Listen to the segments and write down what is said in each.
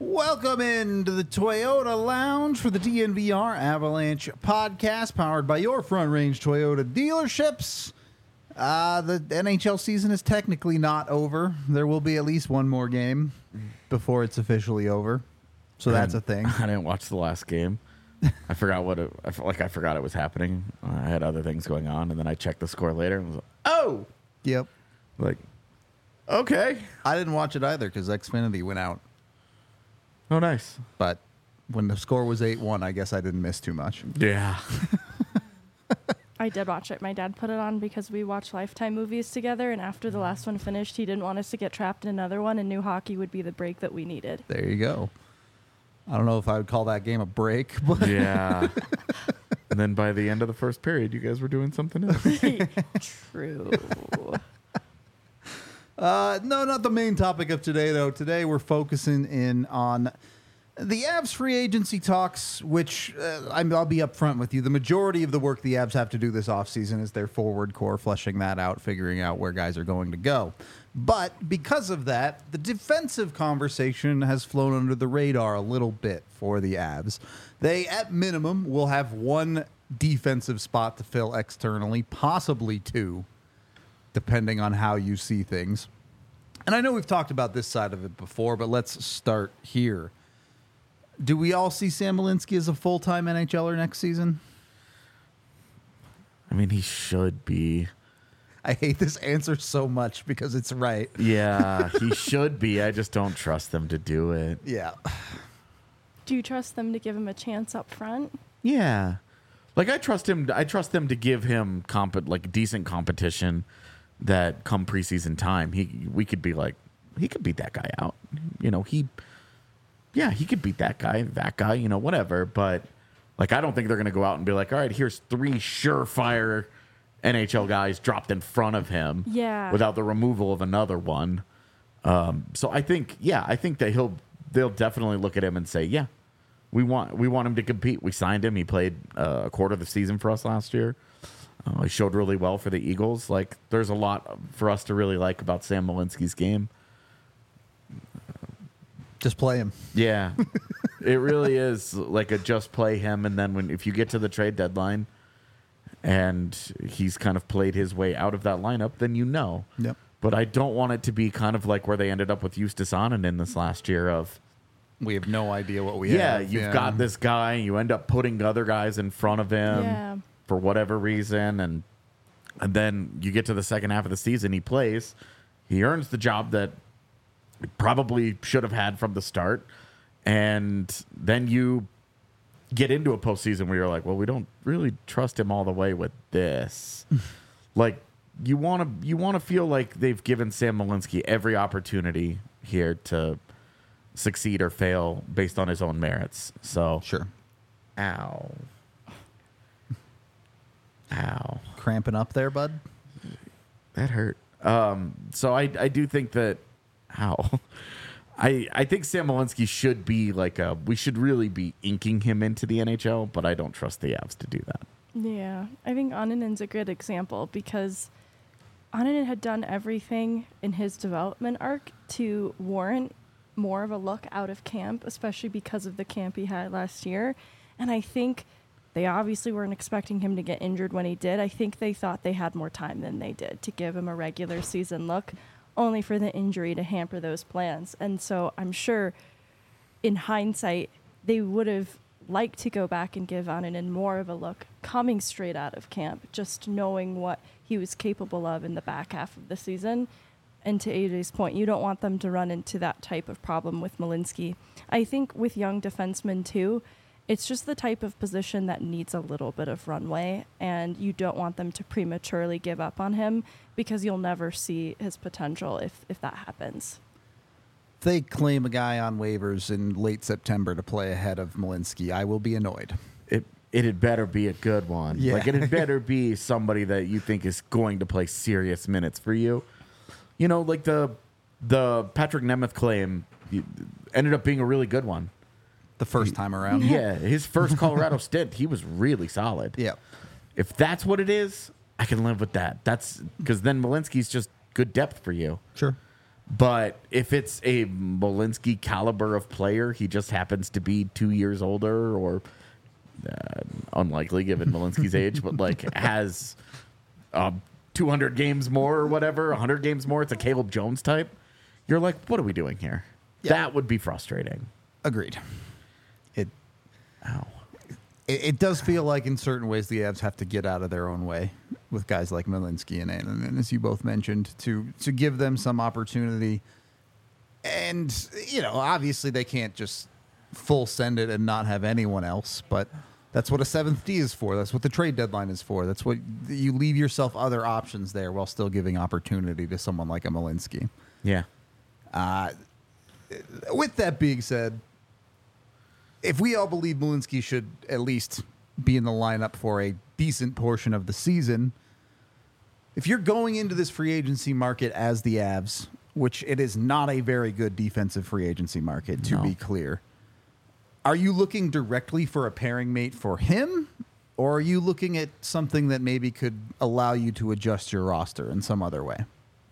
Welcome into the Toyota Lounge for the DNVR Avalanche podcast, powered by your Front Range Toyota dealerships. The NHL season is technically not over. There will be at least one more game before it's officially over. So that's a thing. I didn't watch the last game. I forgot I forgot it was happening. I had other things going on, and then I checked the score later and was like, oh! Yep. Like, okay. I didn't watch it either because Xfinity went out. Oh, nice. But when the score was 8-1, I guess I didn't miss too much. Yeah. I did watch it. My dad put it on because we watch Lifetime movies together, and after the last one finished, he didn't want us to get trapped in another one, and new hockey would be the break that we needed. There you go. I don't know if I would call that game a break, but Yeah. And then by the end of the first period, you guys were doing something else. True. no, not the main topic of today, though. Today we're focusing in on the Avs free agency talks, which I'll be upfront with you. The majority of the work the Avs have to do this offseason is their forward core, fleshing that out, figuring out where guys are going to go. But because of that, the defensive conversation has flown under the radar a little bit for the Avs. They, at minimum, will have one defensive spot to fill externally, possibly two, depending on how you see things. And I know we've talked about this side of it before, but let's start here. Do we all see Sam Malinski as a full-time NHLer next season? I mean, he should be. I hate this answer so much because it's right. Yeah, he should be. I just don't trust them to do it. Yeah. Do you trust them to give him a chance up front? Yeah. Like, I trust him. I trust them to give him decent competition that come preseason time, we could be like, he could beat that guy out. You know, he could beat that guy, you know, whatever. But, like, I don't think they're going to go out and be like, all right, here's 3 surefire NHL guys dropped in front of him without the removal of another one. So I think that they'll definitely look at him and say, yeah, we want him to compete. We signed him. He played a quarter of the season for us last year. He showed really well for the Eagles. Like, there's a lot for us to really like about Sam Malinski's game. Just play him. Yeah. It really is like a just play him, and then if you get to the trade deadline and he's kind of played his way out of that lineup, then you know. Yep. But I don't want it to be kind of like where they ended up with Justus Annunen this last year of, we have no idea what we have. You've got this guy, you end up putting other guys in front of him for whatever reason, and then you get to the second half of the season, he plays, he earns the job that he probably should have had from the start, and then you get into a postseason where you're like, well, we don't really trust him all the way with this. Like, you want to feel like they've given Sam Malinski every opportunity here to succeed or fail based on his own merits. So Sure. Ow. Cramping up there, bud? That hurt. So I do think that, I think Sam Malinski should be we should really be inking him into the NHL, but I don't trust the Avs to do that. Yeah. I think Annunen's a good example because Annunen had done everything in his development arc to warrant more of a look out of camp, especially because of the camp he had last year. And I think they obviously weren't expecting him to get injured when he did. I think they thought they had more time than they did to give him a regular season look, only for the injury to hamper those plans. And so I'm sure in hindsight, they would have liked to go back and give Annunen more of a look coming straight out of camp, just knowing what he was capable of in the back half of the season. And to AJ's point, you don't want them to run into that type of problem with Malinski. I think with young defensemen too, it's just the type of position that needs a little bit of runway, and you don't want them to prematurely give up on him because you'll never see his potential if that happens. If they claim a guy on waivers in late September to play ahead of Malinski, I will be annoyed. It had better be a good one. Yeah. Like, it had better be somebody that you think is going to play serious minutes for you. You know, like the Patrick Nemeth claim ended up being a really good one. The first time around? Yeah, his first Colorado stint, he was really solid. Yeah. If that's what it is, I can live with that. That's because then Malinski's just good depth for you. Sure. But if it's a Malinsky caliber of player, he just happens to be 2 years older, or unlikely given Malinsky's age, but like has 200 games more or whatever, 100 games more. It's a Caleb Jones type. You're like, what are we doing here? Yeah. That would be frustrating. Agreed. Ow. It does feel like in certain ways the Avs have to get out of their own way with guys like Malinsky and Annan, and as you both mentioned, to give them some opportunity. And, obviously they can't just full send it and not have anyone else, but that's what a 7th D is for. That's what the trade deadline is for. That's what you leave yourself other options there while still giving opportunity to someone like a Malinsky. Yeah. With that being said, if we all believe Malinsky should at least be in the lineup for a decent portion of the season, if you're going into this free agency market as the Avs, which it is not a very good defensive free agency market, to be clear, are you looking directly for a pairing mate for him, or are you looking at something that maybe could allow you to adjust your roster in some other way?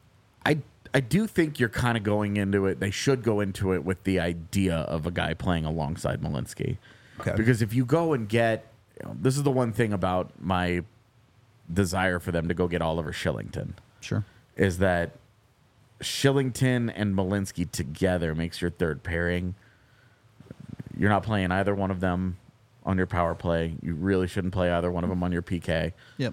I do think you're kind of going into it. They should go into it with the idea of a guy playing alongside Malinsky. Okay. Because if you go and get, this is the one thing about my desire for them to go get Oliver Shillington. Sure. Is that Shillington and Malinsky together makes your third pairing. You're not playing either one of them on your power play. You really shouldn't play either one of them on your PK. Yep.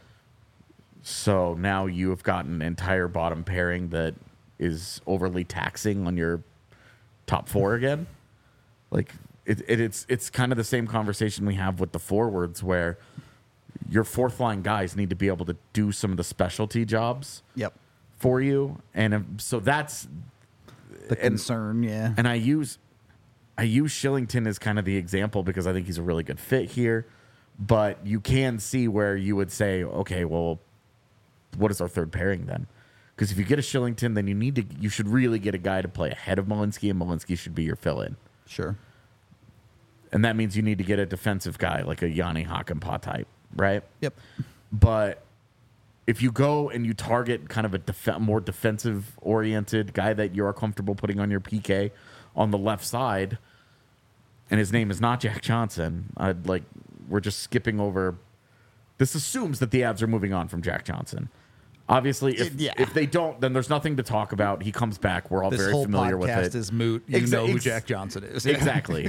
So now you have got an entire bottom pairing that is overly taxing on your top 4 again. Like it's kind of the same conversation we have with the forwards, where your 4th line guys need to be able to do some of the specialty jobs. Yep. For you, and so that's the concern. Yeah. And I use Shillington as kind of the example because I think he's a really good fit here. But you can see where you would say, okay, well, what is our third pairing then? Because if you get a Shillington, then you should really get a guy to play ahead of Malinsky, and Malinsky should be your fill-in. Sure. And that means you need to get a defensive guy like a Yanni Hakanpää type, right? Yep. But if you go and you target kind of a more defensive-oriented guy that you're comfortable putting on your PK on the left side, and his name is not Jack Johnson, we're just skipping over. This assumes that the Avs are moving on from Jack Johnson. Obviously, if they don't, then there's nothing to talk about. He comes back. We're all very familiar with it. This whole podcast is moot. You know who Jack Johnson is. Exactly.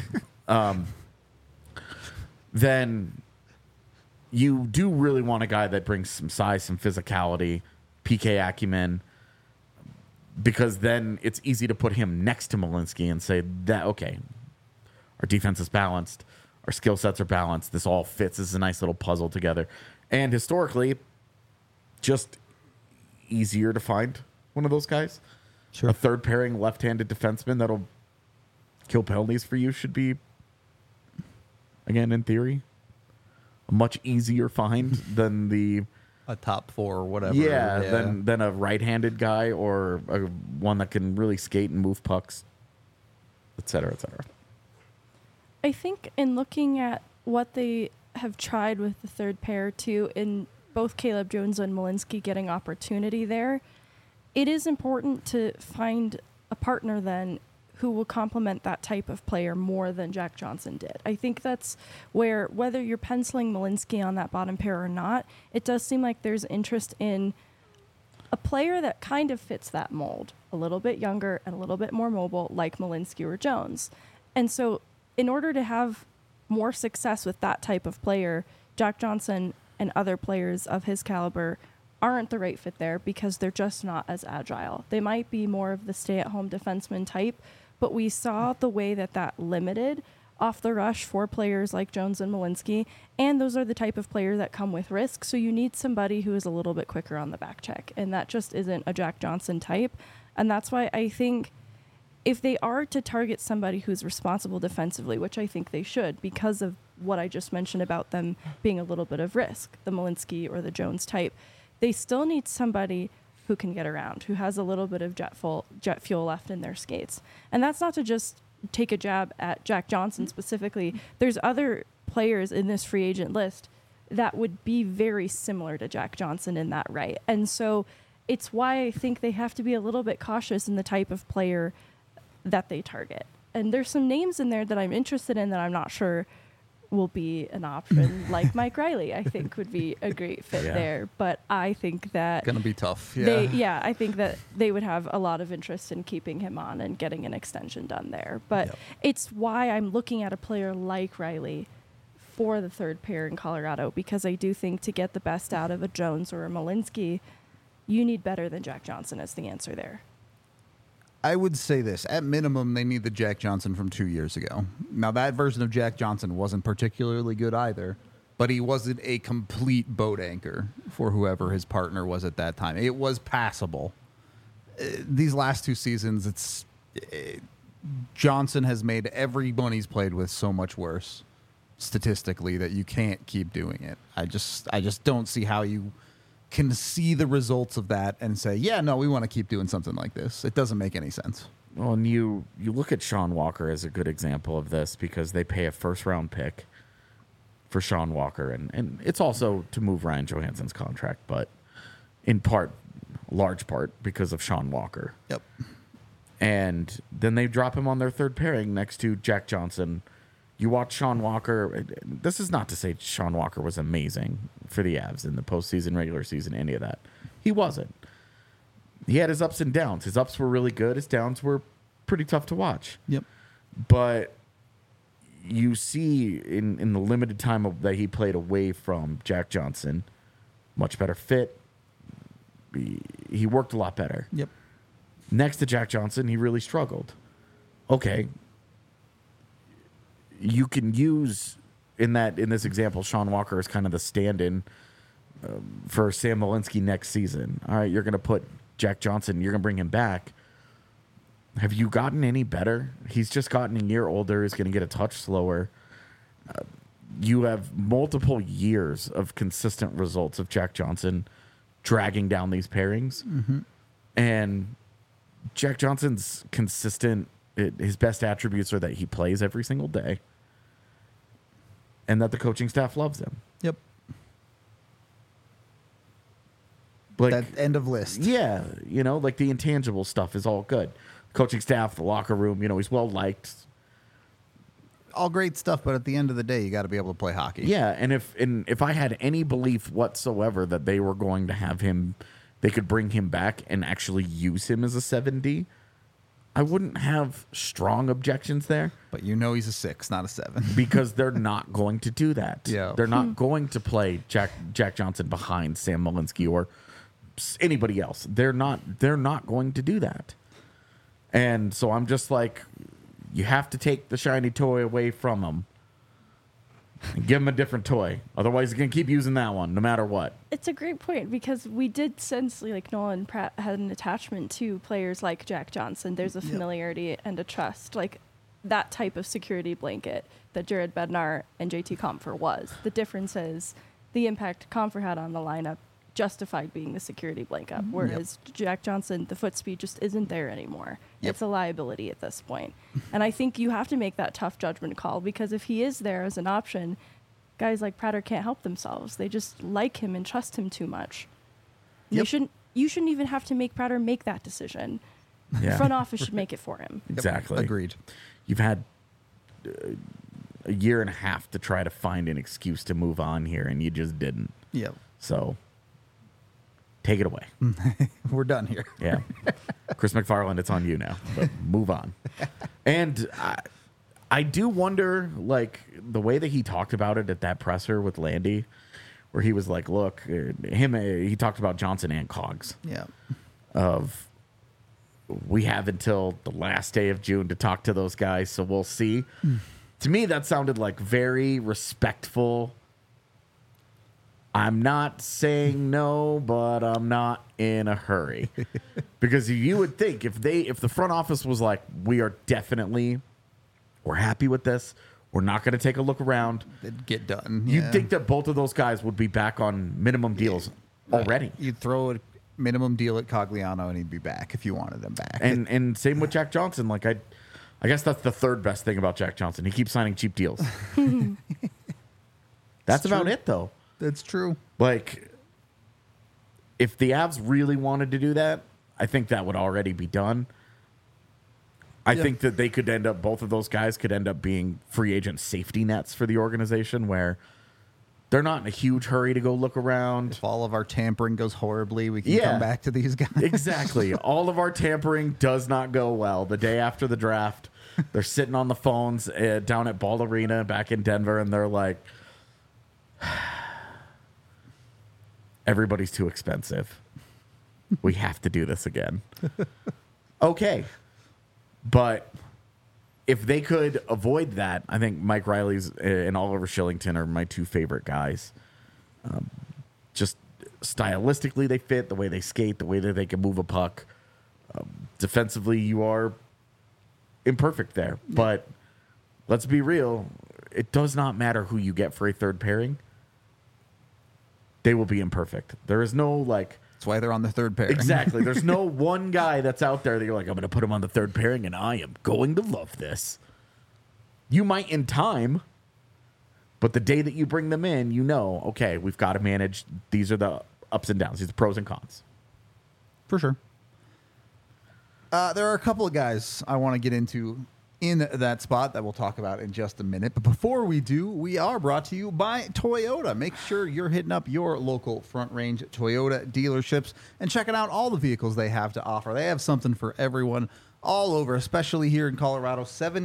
Then you do really want a guy that brings some size, some physicality, PK acumen, because then it's easy to put him next to Malinsky and say that, okay, our defense is balanced, our skill sets are balanced, this all fits, this is a nice little puzzle together. And historically, just easier to find one of those guys. Sure. A third pairing left-handed defenseman that'll kill penalties for you should be, again, in theory, a much easier find than a top 4 or whatever. Yeah, than a right-handed guy or one that can really skate and move pucks, et cetera, et cetera. I think in looking at what they have tried with the third pair too, in both Caleb Jones and Malinsky getting opportunity there, it is important to find a partner then who will complement that type of player more than Jack Johnson did. I think that's where, whether you're penciling Malinsky on that bottom pair or not, it does seem like there's interest in a player that kind of fits that mold, a little bit younger and a little bit more mobile, like Malinsky or Jones. And so in order to have more success with that type of player, Jack Johnson and other players of his caliber aren't the right fit there because they're just not as agile. They might be more of the stay-at-home defenseman type, but we saw the way that limited off the rush for players like Jones and Malinsky, and those are the type of player that come with risk, so you need somebody who is a little bit quicker on the back check, and that just isn't a Jack Johnson type. And that's why I think if they are to target somebody who's responsible defensively, which I think they should because of what I just mentioned about them being a little bit of risk, the Malinsky or the Jones type, they still need somebody who can get around, who has a little bit of jet fuel left in their skates. And that's not to just take a jab at Jack Johnson specifically. There's other players in this free agent list that would be very similar to Jack Johnson in that right. And so it's why I think they have to be a little bit cautious in the type of player that they target. And there's some names in there that I'm interested in that I'm not sure will be an option. Like Mike Riley, I think would be a great fit there. But I think that Gonna be tough. Yeah. I think that they would have a lot of interest in keeping him on and getting an extension done there. But it's why I'm looking at a player like Riley for the third pair in Colorado, because I do think to get the best out of a Jones or a Malinsky, you need better than Jack Johnson as the answer there. I would say this. At minimum, they need the Jack Johnson from 2 years ago. Now, that version of Jack Johnson wasn't particularly good either, but he wasn't a complete boat anchor for whoever his partner was at that time. It was passable. These last 2 seasons, Johnson has made everyone he's played with so much worse statistically that you can't keep doing it. I just don't see how you can see the results of that and say, yeah, no, we want to keep doing something like this. It doesn't make any sense. Well, and you look at Sean Walker as a good example of this, because they pay a first-round pick for Sean Walker, and it's also to move Ryan Johansson's contract, but in part, large part, because of Sean Walker. Yep. And then they drop him on their third pairing next to Jack Johnson. You watch Sean Walker. This is not to say Sean Walker was amazing for the Avs in the postseason, regular season, any of that. He wasn't. He had his ups and downs. His ups were really good. His downs were pretty tough to watch. Yep. But you see in the limited time that he played away from Jack Johnson, much better fit. He worked a lot better. Yep. Next to Jack Johnson, he really struggled. Okay. You can use in this example, Sean Walker is kind of the stand-in for Sam Malinsky next season. All right, you're going to put Jack Johnson, you're going to bring him back. Have you gotten any better? He's just gotten a year older. He's going to get a touch slower. You have multiple years of consistent results of Jack Johnson dragging down these pairings. Mm-hmm. And Jack Johnson's consistent. His best attributes are that he plays every single day and that the coaching staff loves him. Yep. Like, that end of list. Yeah. Like the intangible stuff is all good. Coaching staff, the locker room, he's well liked. All great stuff, but at the end of the day, you got to be able to play hockey. Yeah, and if I had any belief whatsoever that they were going to have him, they could bring him back and actually use him as a 7D, I wouldn't have strong objections there. But he's a 6, not a 7. Because they're not going to do that. Yeah. They're not going to play Jack Johnson behind Sam Malinsky or anybody else. They're not going to do that. And so I'm just like, you have to take the shiny toy away from him and give him a different toy. Otherwise, he's going to keep using that one no matter what. It's a great point, because we did sense like Nolan Pratt had an attachment to players like Jack Johnson. There's a familiarity and a trust, like that type of security blanket that Jared Bednar and JT Compher was. The difference is the impact Compher had on the lineup justified being the security blanket, whereas Jack Johnson, the foot speed just isn't there anymore. Yep. It's a liability at this point. And I think you have to make that tough judgment call, because if he is there as an option, guys like Prater can't help themselves. They just like him and trust him too much. Yep. You shouldn't even have to make Prater make that decision. Yeah. The front office should make it for him. Exactly. Agreed. You've had a year and a half to try to find an excuse to move on here, and you just didn't. Yep. So take it away. We're done here. Yeah. Chris McFarland, it's on you now. But move on. And I do wonder, like, the way that he talked about it at that presser with Landy, where he was like, look, he talked about Johnson and Cogs. Yeah. We have until the last day of June to talk to those guys, so we'll see. To me, that sounded like very respectful. I'm not saying no, but I'm not in a hurry. Because you would think if the front office was like, we're happy with this, we're not going to take a look around, It'd get done. you'd think that both of those guys would be back on minimum deals already. You'd throw a minimum deal at Cogliano and he'd be back if you wanted him back. And same with Jack Johnson. Like I guess that's the third best thing about Jack Johnson. He keeps signing cheap deals. That's about true. it, though. That's true. Like, if the Avs really wanted to do that, I think that would already be done. I think that they could end up, both of those guys could end up being free agent safety nets for the organization where they're not in a huge hurry to go look around. If all of our tampering goes horribly, we can come back to these guys. Exactly. All of our tampering does not go well. The day after the draft, they're sitting on the phones down at Ball Arena back in Denver, and they're like, everybody's too expensive. We have to do this again. Okay. But if they could avoid that, I think Mike Riley's and Oliver Shillington are my two favorite guys. Just stylistically, they fit, the way they skate, the way that they can move a puck. Defensively, you are imperfect there. But let's be real. It does not matter who you get for a third pairing. They will be imperfect. There is no, like... That's why they're on the third pairing. Exactly. There's no one guy that's out there that you're like, I'm going to put him on the third pairing, and I am going to love this. You might in time, but the day that you bring them in, you know, okay, we've got to manage. These are the ups and downs. These are the pros and cons. For sure. There are a couple of guys I want to get into in that spot that we'll talk about in just a minute. But before we do, we are brought to you by Toyota. Make sure you're hitting up your local Front Range Toyota dealerships and checking out all the vehicles they have to offer. They have something for everyone all over, especially here in Colorado.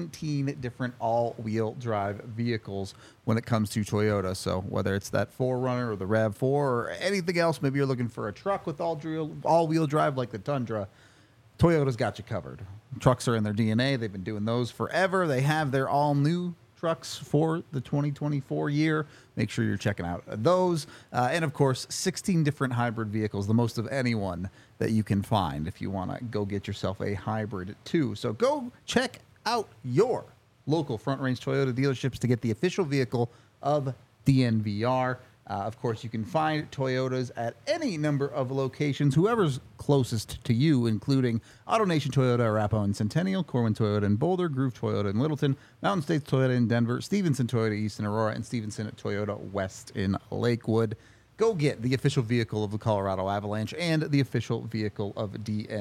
17 different all-wheel drive vehicles when it comes to Toyota. So whether it's that 4Runner or the RAV4 or anything else, maybe you're looking for a truck with all-wheel drive like the Tundra, Toyota's got you covered. Trucks are in their DNA. They've been doing those forever. They have their all-new trucks for the 2024 year. Make sure you're checking out those. And, of course, 16 different hybrid vehicles, the most of anyone that you can find if you want to go get yourself a hybrid, too. So go check out your local Front Range Toyota dealerships to get the official vehicle of DNVR. Of course, you can find Toyotas at any number of locations, whoever's closest to you, including AutoNation Toyota, Arapahoe and Centennial, Corwin Toyota in Boulder, Groove Toyota in Littleton, Mountain States Toyota in Denver, Stevenson Toyota East in Aurora, and Stevenson Toyota West in Lakewood. Go get the official vehicle of the Colorado Avalanche and the official vehicle of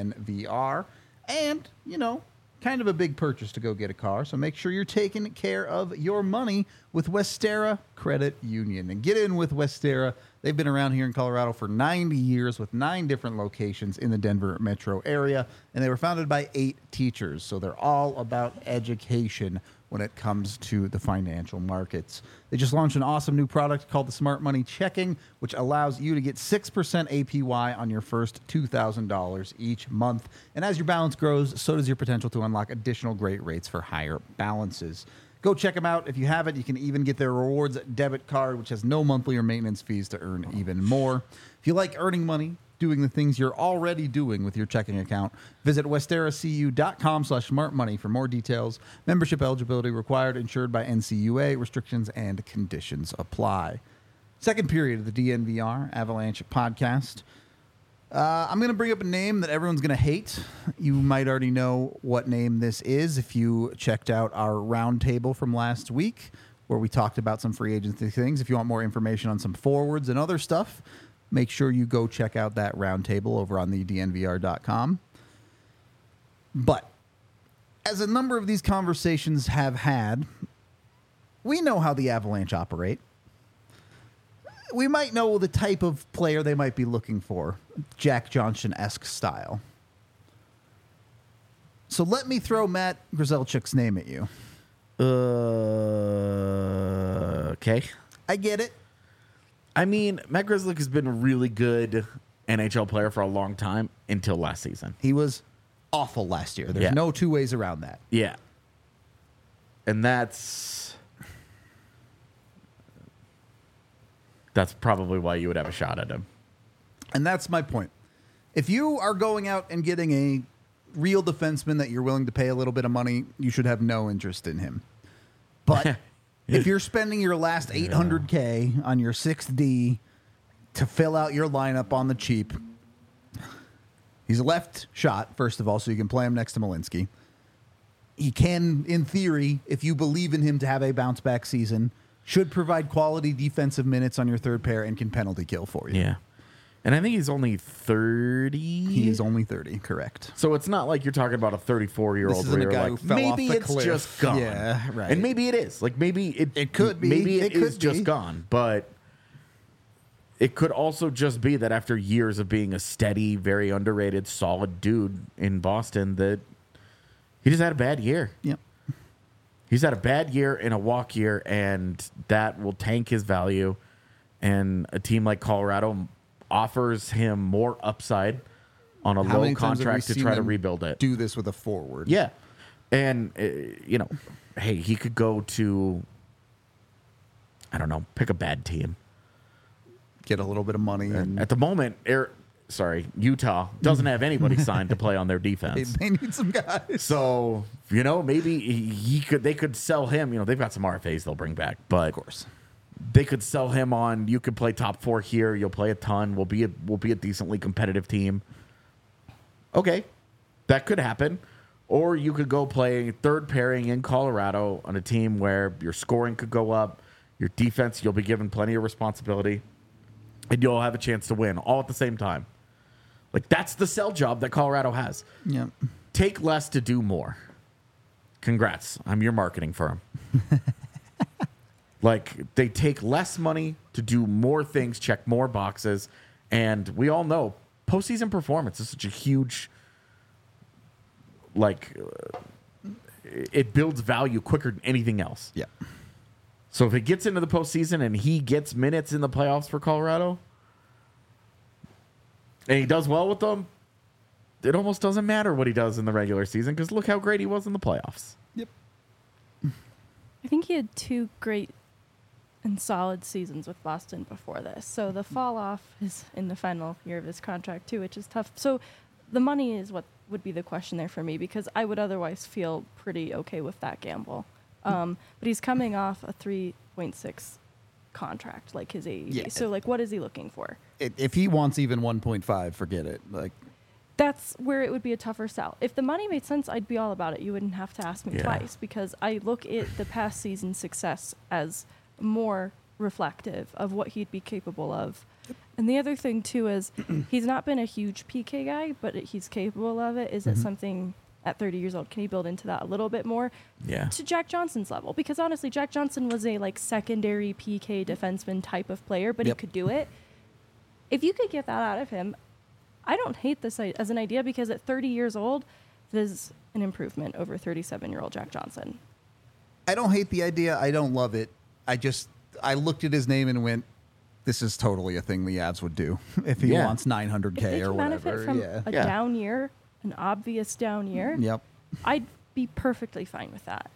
DNVR. And, you know, kind of a big purchase to go get a car, so make sure you're taking care of your money with Westera Credit Union. And get in with Westera. They've been around here in Colorado for 90 years with 9 different locations in the Denver metro area, and they were founded by 8 teachers, so they're all about education when it comes to the financial markets. They just launched an awesome new product called the Smart Money Checking, which allows you to get 6% APY on your first $2,000 each month. And as your balance grows, so does your potential to unlock additional great rates for higher balances. Go check them out. If you have it, you can even get their rewards debit card, which has no monthly or maintenance fees to earn even more. If you like earning money, doing the things you're already doing with your checking account, visit westeracu.com/smartmoney for more details. Membership eligibility required, insured by NCUA. Restrictions and conditions apply. Second period of the DNVR Avalanche podcast. I'm going to bring up a name that everyone's going to hate. You might already know what name this is if you checked out our roundtable from last week, where we talked about some free agency things. If you want more information on some forwards and other stuff, make sure you go check out that roundtable over on the DNVR.com. But as a number of these conversations have had, we know how the Avalanche operate. We might know the type of player they might be looking for, Jack Johnson-esque style. So let me throw Matt Grzelczyk's name at you. Okay. I get it. I mean, Matt Grzelcyk has been a really good NHL player for a long time until last season. He was awful last year. There's no two ways around that. Yeah. And that's probably why you would have a shot at him. And that's my point. If you are going out and getting a real defenseman that you're willing to pay a little bit of money, you should have no interest in him. But if you're spending your last $800K on your 6D to fill out your lineup on the cheap, he's a left shot, first of all, so you can play him next to Malinsky. He can, in theory, if you believe in him to have a bounce-back season, should provide quality defensive minutes on your third pair and can penalty kill for you. Yeah. And I think he's only 30. He is only 30, correct. So it's not like you're talking about a 34-year-old This where isn't a you're guy like, who fell off maybe the it's cliff. just gone. Yeah, right. And maybe it is. Like maybe It could be. Maybe It is could just be. gone. But it could also just be that after years of being a steady, very underrated, solid dude in Boston, that he just had a bad year. Yep. He's had a bad year and a walk year, and that will tank his value. And a team like Colorado offers him more upside on a How low many times have we contract to seen try to them rebuild it. Do this with a forward. Yeah. And, hey, he could go to, I don't know, pick a bad team. Get a little bit of money. And At the moment, Utah doesn't have anybody signed to play on their defense. they need some guys. So, maybe they could sell him. They've got some RFAs they'll bring back, but Of course. they could sell him on, you could play top 4 here, you'll play a ton, we'll be a decently competitive team. Okay, that could happen. Or you could go play third pairing in Colorado on a team where your scoring could go up, your defense, you'll be given plenty of responsibility, and you'll have a chance to win all at the same time. Like, that's the sell job that Colorado has. Yep. Take less to do more. Congrats. I'm your marketing firm. Like, they take less money to do more things, check more boxes, and we all know postseason performance is such a huge, it builds value quicker than anything else. Yeah. So if it gets into the postseason and he gets minutes in the playoffs for Colorado, and he does well with them, it almost doesn't matter what he does in the regular season because look how great he was in the playoffs. Yep. I think he had 2 great and solid seasons with Boston before this. So the fall off is in the final year of his contract too, which is tough. So the money is what would be the question there for me because I would otherwise feel pretty okay with that gamble. But he's coming off a 3.6 contract, like his AAV. Yeah. So what is he looking for? If he wants even 1.5, forget it. That's where it would be a tougher sell. If the money made sense, I'd be all about it. You wouldn't have to ask me Yeah. twice because I look at the past season's success as more reflective of what he'd be capable of. And the other thing, too, is he's not been a huge PK guy, but he's capable of it. Is it something at 30 years old? Can he build into that a little bit more? Yeah. To Jack Johnson's level? Because honestly, Jack Johnson was a secondary PK defenseman type of player, but he could do it. If you could get that out of him, I don't hate this as an idea because at 30 years old, it is an improvement over 37-year-old Jack Johnson. I don't hate the idea. I don't love it. I looked at his name and went, this is totally a thing the Avs would do if he wants 900K If they or can whatever. benefit from a Yeah. down year, an obvious down year, Yep. I'd be perfectly fine with that.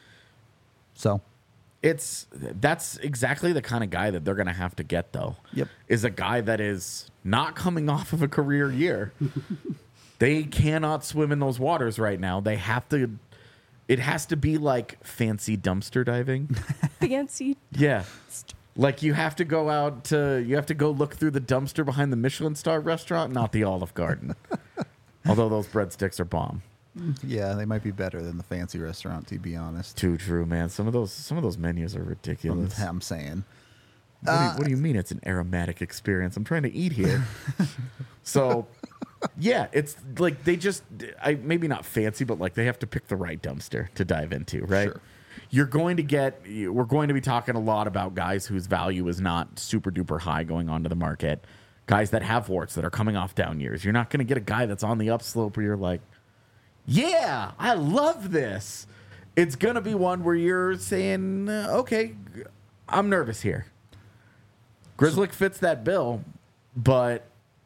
So, That's exactly the kind of guy that they're going to have to get, though. Yep. Is a guy that is not coming off of a career year. They cannot swim in those waters right now. They have to. It has to be like fancy dumpster diving. Fancy. Yeah. Like you have to go look through the dumpster behind the Michelin star restaurant, not the Olive Garden. Although those breadsticks are bomb. yeah, they might be better than the fancy restaurant, to be honest. Too true, man. Some of those menus are ridiculous. I'm saying. What do you mean it's an aromatic experience? I'm trying to eat here. So, yeah, it's like they just, maybe not fancy, but they have to pick the right dumpster to dive into, right? Sure. We're going to be talking a lot about guys whose value is not super duper high going onto the market. Guys that have warts that are coming off down years. You're not going to get a guy that's on the upslope where you're like, yeah, I love this. It's going to be one where you're saying, okay, I'm nervous here. Grzelcyk fits that bill, but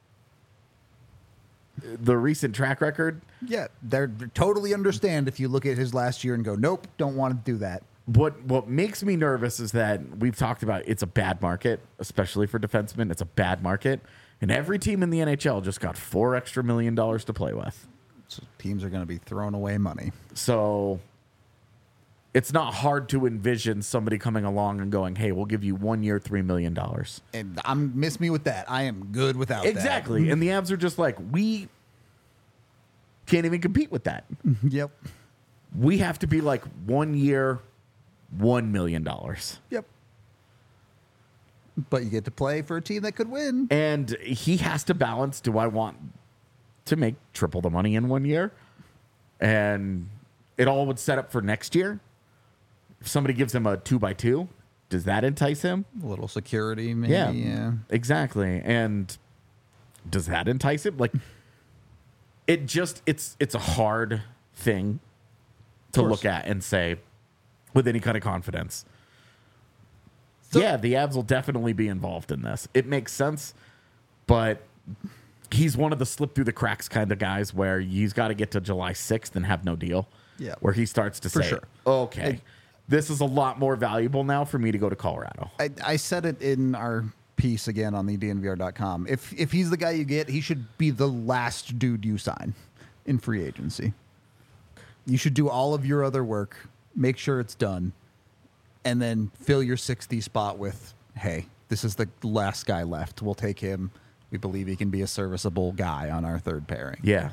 the recent track record. Yeah, they totally understand if you look at his last year and go, nope, don't want to do that. What makes me nervous is that we've talked about it's a bad market, especially for defensemen. It's a bad market. And every team in the NHL just got $4 extra million to play with. So teams are going to be throwing away money. So it's not hard to envision somebody coming along and going, hey, we'll give you 1 year, $3 million. And miss me with that. I am good without that. Exactly. And the Avs are just like, we can't even compete with that. Yep. We have to be like 1 year, $1 million. Yep. But you get to play for a team that could win. And he has to balance, do I want to make triple the money in 1 year? And it all would set up for next year. If somebody gives him a 2x2, does that entice him? A little security, maybe. Yeah. Exactly. And does that entice him? Like, it's a hard thing to look at and say with any kind of confidence. So, yeah, the Avs will definitely be involved in this. It makes sense, but he's one of the slip through the cracks kind of guys where he's got to get to July 6th and have no deal. Yeah. Where he starts to say, sure. Okay, this is a lot more valuable now for me to go to Colorado. I said it in our piece again on the DNVR.com. If he's the guy you get, he should be the last dude you sign in free agency. You should do all of your other work, make sure it's done, and then fill your 60 spot with, hey, this is the last guy left. We'll take him. We believe he can be a serviceable guy on our third pairing. Yeah.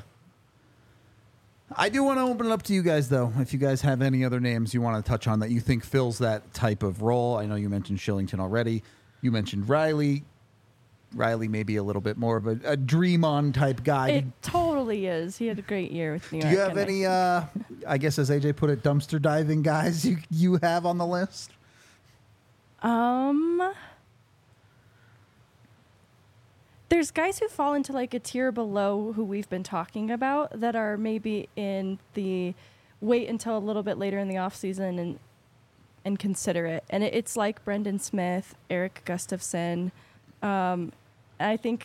I do want to open it up to you guys, though. If you guys have any other names you want to touch on that you think fills that type of role. I know you mentioned Shillington already. You mentioned Riley. Riley may be a little bit more of a dream-on type guy. It totally is. He had a great year with New York. Do you have any, I guess as AJ put it, dumpster diving guys you have on the list? There's guys who fall into like a tier below who we've been talking about that are maybe in the wait until a little bit later in the offseason and consider it. And it's like Brendan Smith, Eric Gustafson. I think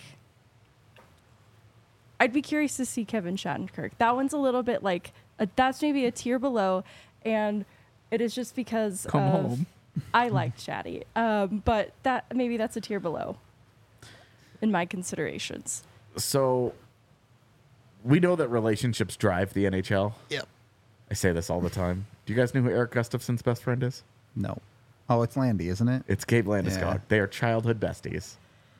I'd be curious to see Kevin Shattenkirk. That one's a little bit like, that's maybe a tier below. And it is just because Come home. I liked Shatty. But maybe that's a tier below in my considerations. So we know that relationships drive the NHL. Yep. I say this all the time. Do you guys know who Eric Gustafson's best friend is? No. Oh, it's Landy, isn't it? It's Gabe Landeskog. Yeah. They are childhood besties.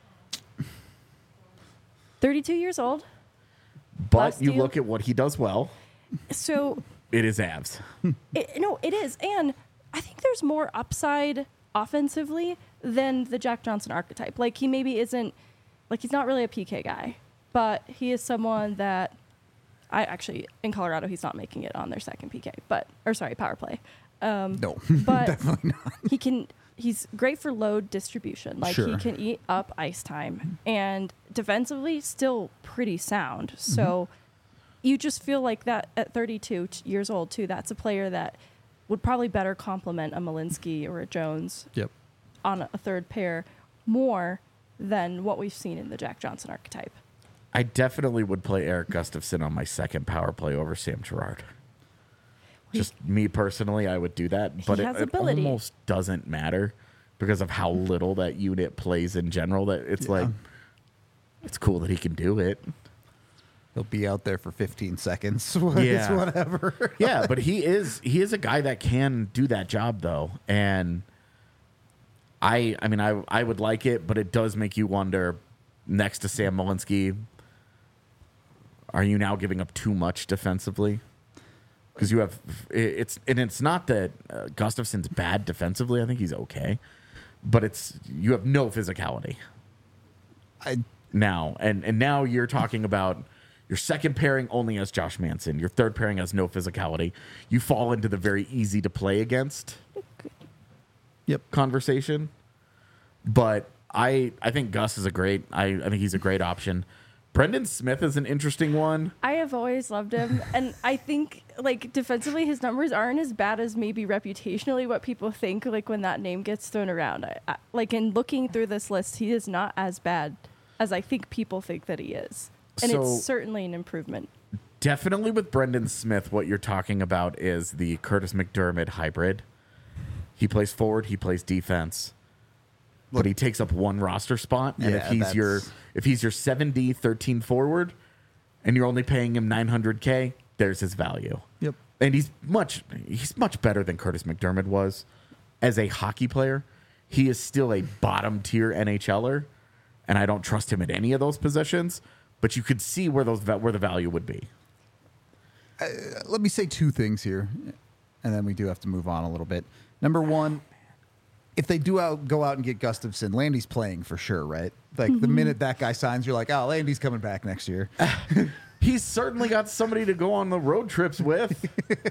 32 years old. But Last you deal. look at what he does well. So It is Avs. it is. And I think there's more upside offensively than the Jack Johnson archetype. Like, he maybe isn't, like, he's not really a PK guy, but he is someone that in Colorado, he's not making it on their second PK, power play. No, But definitely not. He's great for load distribution. Like, Sure. he can eat up ice time, and defensively still pretty sound. So you just feel like that at 32 years old too, that's a player that would probably better complement a Malinsky or a Jones Yep. on a third pair more than what we've seen in the Jack Johnson archetype. I definitely would play Eric Gustafson on my second power play over Sam Girard. Just me personally, I would do that. But has it ability. almost doesn't matter because of how little that unit plays in general. That it's like, it's cool that he can do it. He'll be out there for 15 seconds. Yeah. It's whatever. Yeah, but he is a guy that can do that job though. And I mean I would like it, but it does make you wonder, next to Sam Malinsky, are you now giving up too much defensively? Because you have it's not that Gustafson's bad defensively. I think he's okay, but you have no physicality now, and now you're talking about your second pairing only has Josh Manson. Your third pairing has no physicality. You fall into the very easy to play against conversation. But I think Gus is I think he's a great option. Brendan Smith is an interesting one. I have always loved him, and I think, like, defensively, his numbers aren't as bad as maybe reputationally what people think, like, when that name gets thrown around. Like, in looking through this list, he is not as bad as I think people think that he is. And So- it's certainly an improvement. Definitely with Brendan Smith, what you're talking about is the Curtis McDermott hybrid. He plays forward, he plays defense, but he takes up one roster spot. And Yeah, if he's your 7D 13 forward, and you're only paying him $900K, there's his value. Yep. And he's much better than Curtis McDermott was as a hockey player. He is still a bottom tier NHLer, and I don't trust him at any of those positions. But you could see where the value would be. Let me say two things here, and then we do have to move on a little bit. Number one, if they go out and get Gustafson, Landy's playing for sure, right? Like the minute that guy signs, you're like, oh, Landy's coming back next year. He's certainly got somebody to go on the road trips with.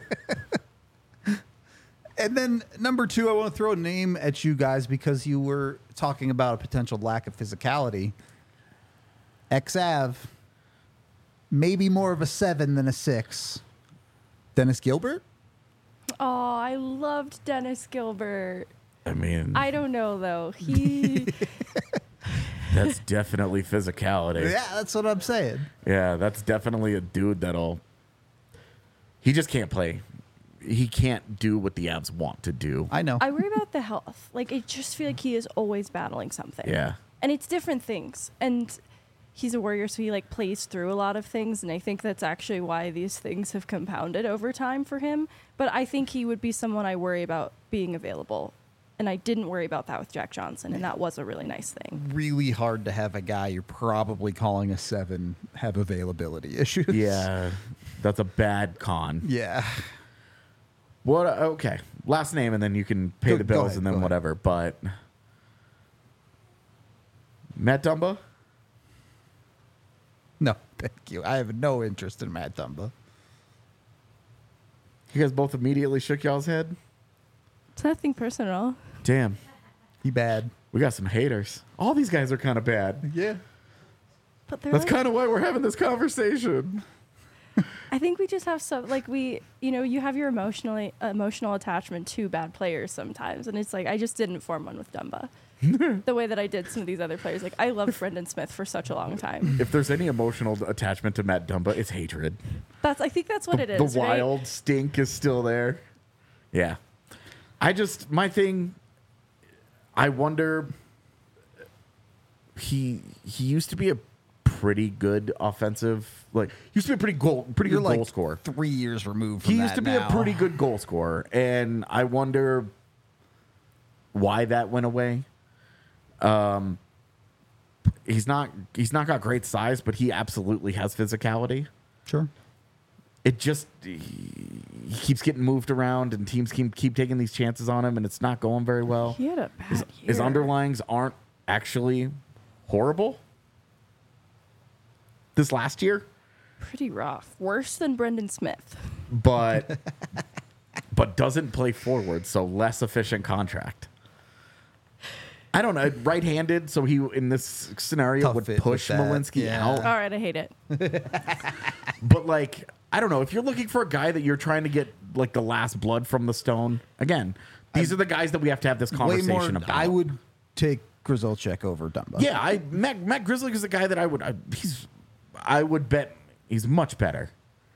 And then number 2, I want to throw a name at you guys because you were talking about a potential lack of physicality. Ex-Av, maybe more of a 7 than a 6. Dennis Gilbert? Oh, I loved Dennis Gilbert. I mean, I don't know though. He that's definitely physicality. Yeah, that's what I'm saying. Yeah, that's definitely a dude he just can't play. He can't do what the Avs want to do. I know. I worry about the health. Like I just feel like he is always battling something. Yeah. And it's different things. And he's a warrior, so he like plays through a lot of things, and I think that's actually why these things have compounded over time for him. But I think he would be someone I worry about being available. And I didn't worry about that with Jack Johnson, and that was a really nice thing. Really hard to have a guy you're probably calling a 7 have availability issues. Yeah, that's a bad con. Yeah. What? Okay, last name, and then you can pay Go- the go bills, ahead, and go then ahead. whatever. But Matt Dumba? No, thank you. I have no interest in Matt Dumba. You guys both immediately shook y'all's head? It's nothing personal. Damn, He bad. we got some haters. All these guys are kind of bad. Yeah. But they're That's like, kind of why we're having this conversation. I think we just have some like you have your emotional attachment to bad players sometimes, and it's like I just didn't form one with Dumba the way that I did some of these other players. Like I loved Brendan Smith for such a long time. If there's any emotional attachment to Matt Dumba, it's hatred. I think that's what it is. The right? wild stink is still there. Yeah. My thing, I wonder, he used to be a pretty good offensive, used to be a pretty good You're goal like scorer. 3 years removed from He that used to be now. a pretty good goal scorer, and I wonder why that went away. He's not got great size, but he absolutely has physicality. Sure. It just he keeps getting moved around, and teams keep taking these chances on him, and it's not going very well. He had a bad year. His underlings aren't actually horrible. This last year, Pretty rough. Worse than Brendan Smith. but doesn't play forward, so less efficient contract. I don't know, right-handed, so he in this scenario Tough would fit push with that, Malinsky yeah. out. All right, I hate it. But I don't know, if you're looking for a guy that you're trying to get the last blood from the stone, again, these are the guys that we have to have this Way conversation more. about. I would take Grzelcyk over Dumba. Yeah, Matt Grizzly is a guy that I would bet he's much better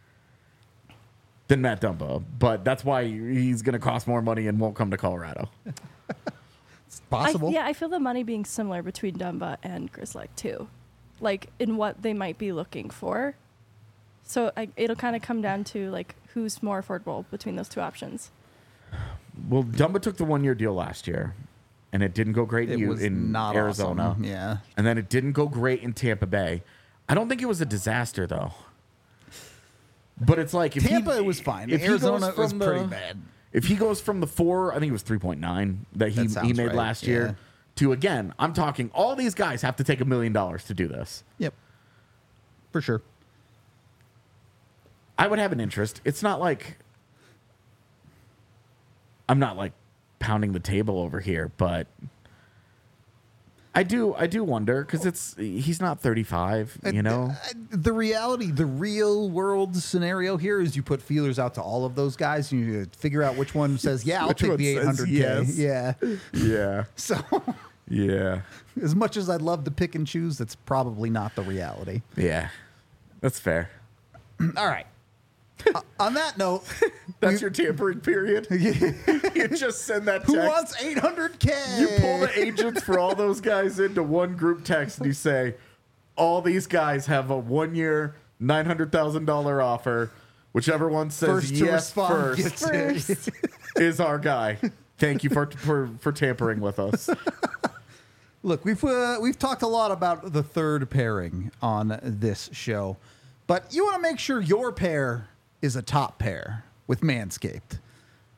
than Matt Dumba, but that's why he's going to cost more money and won't come to Colorado. It's possible. I feel the money being similar between Dumba and Grzelcyk too, in what they might be looking for. So it'll kind of come down to who's more affordable between those two options. Well, Dumba took the 1-year deal last year, and it didn't go great It was in not Arizona. awesome. Yeah. And then it didn't go great in Tampa Bay. I don't think it was a disaster, though. But it's if Tampa, it was fine. if he goes Arizona was from pretty bad. If he goes from the 4, I think it was 3.9 that he sounds made right, last yeah. year, to, again, I'm talking all these guys have to take $1 million to do this. Yep. For sure. I would have an interest. It's not I'm not pounding the table over here, but I do wonder because he's not 35, you know. The reality, the real world scenario here is you put feelers out to all of those guys and you figure out which one says, yeah, I'll Which take one the says 800K. yes. Yeah. Yeah, So yeah, as much as I'd love to pick and choose, that's probably not the reality. yeah. That's fair. All right. On that note, That's your tampering period. You just send that text. who wants 800K? You pull the agents for all those guys into one group text and you say, all these guys have a 1-year, $900,000 offer. Whichever one says First to yes respond first gets it. First. is our guy. Thank you for tampering with us. Look, we've talked a lot about the third pairing on this show, but you want to make sure your pair is a top pair with Manscaped.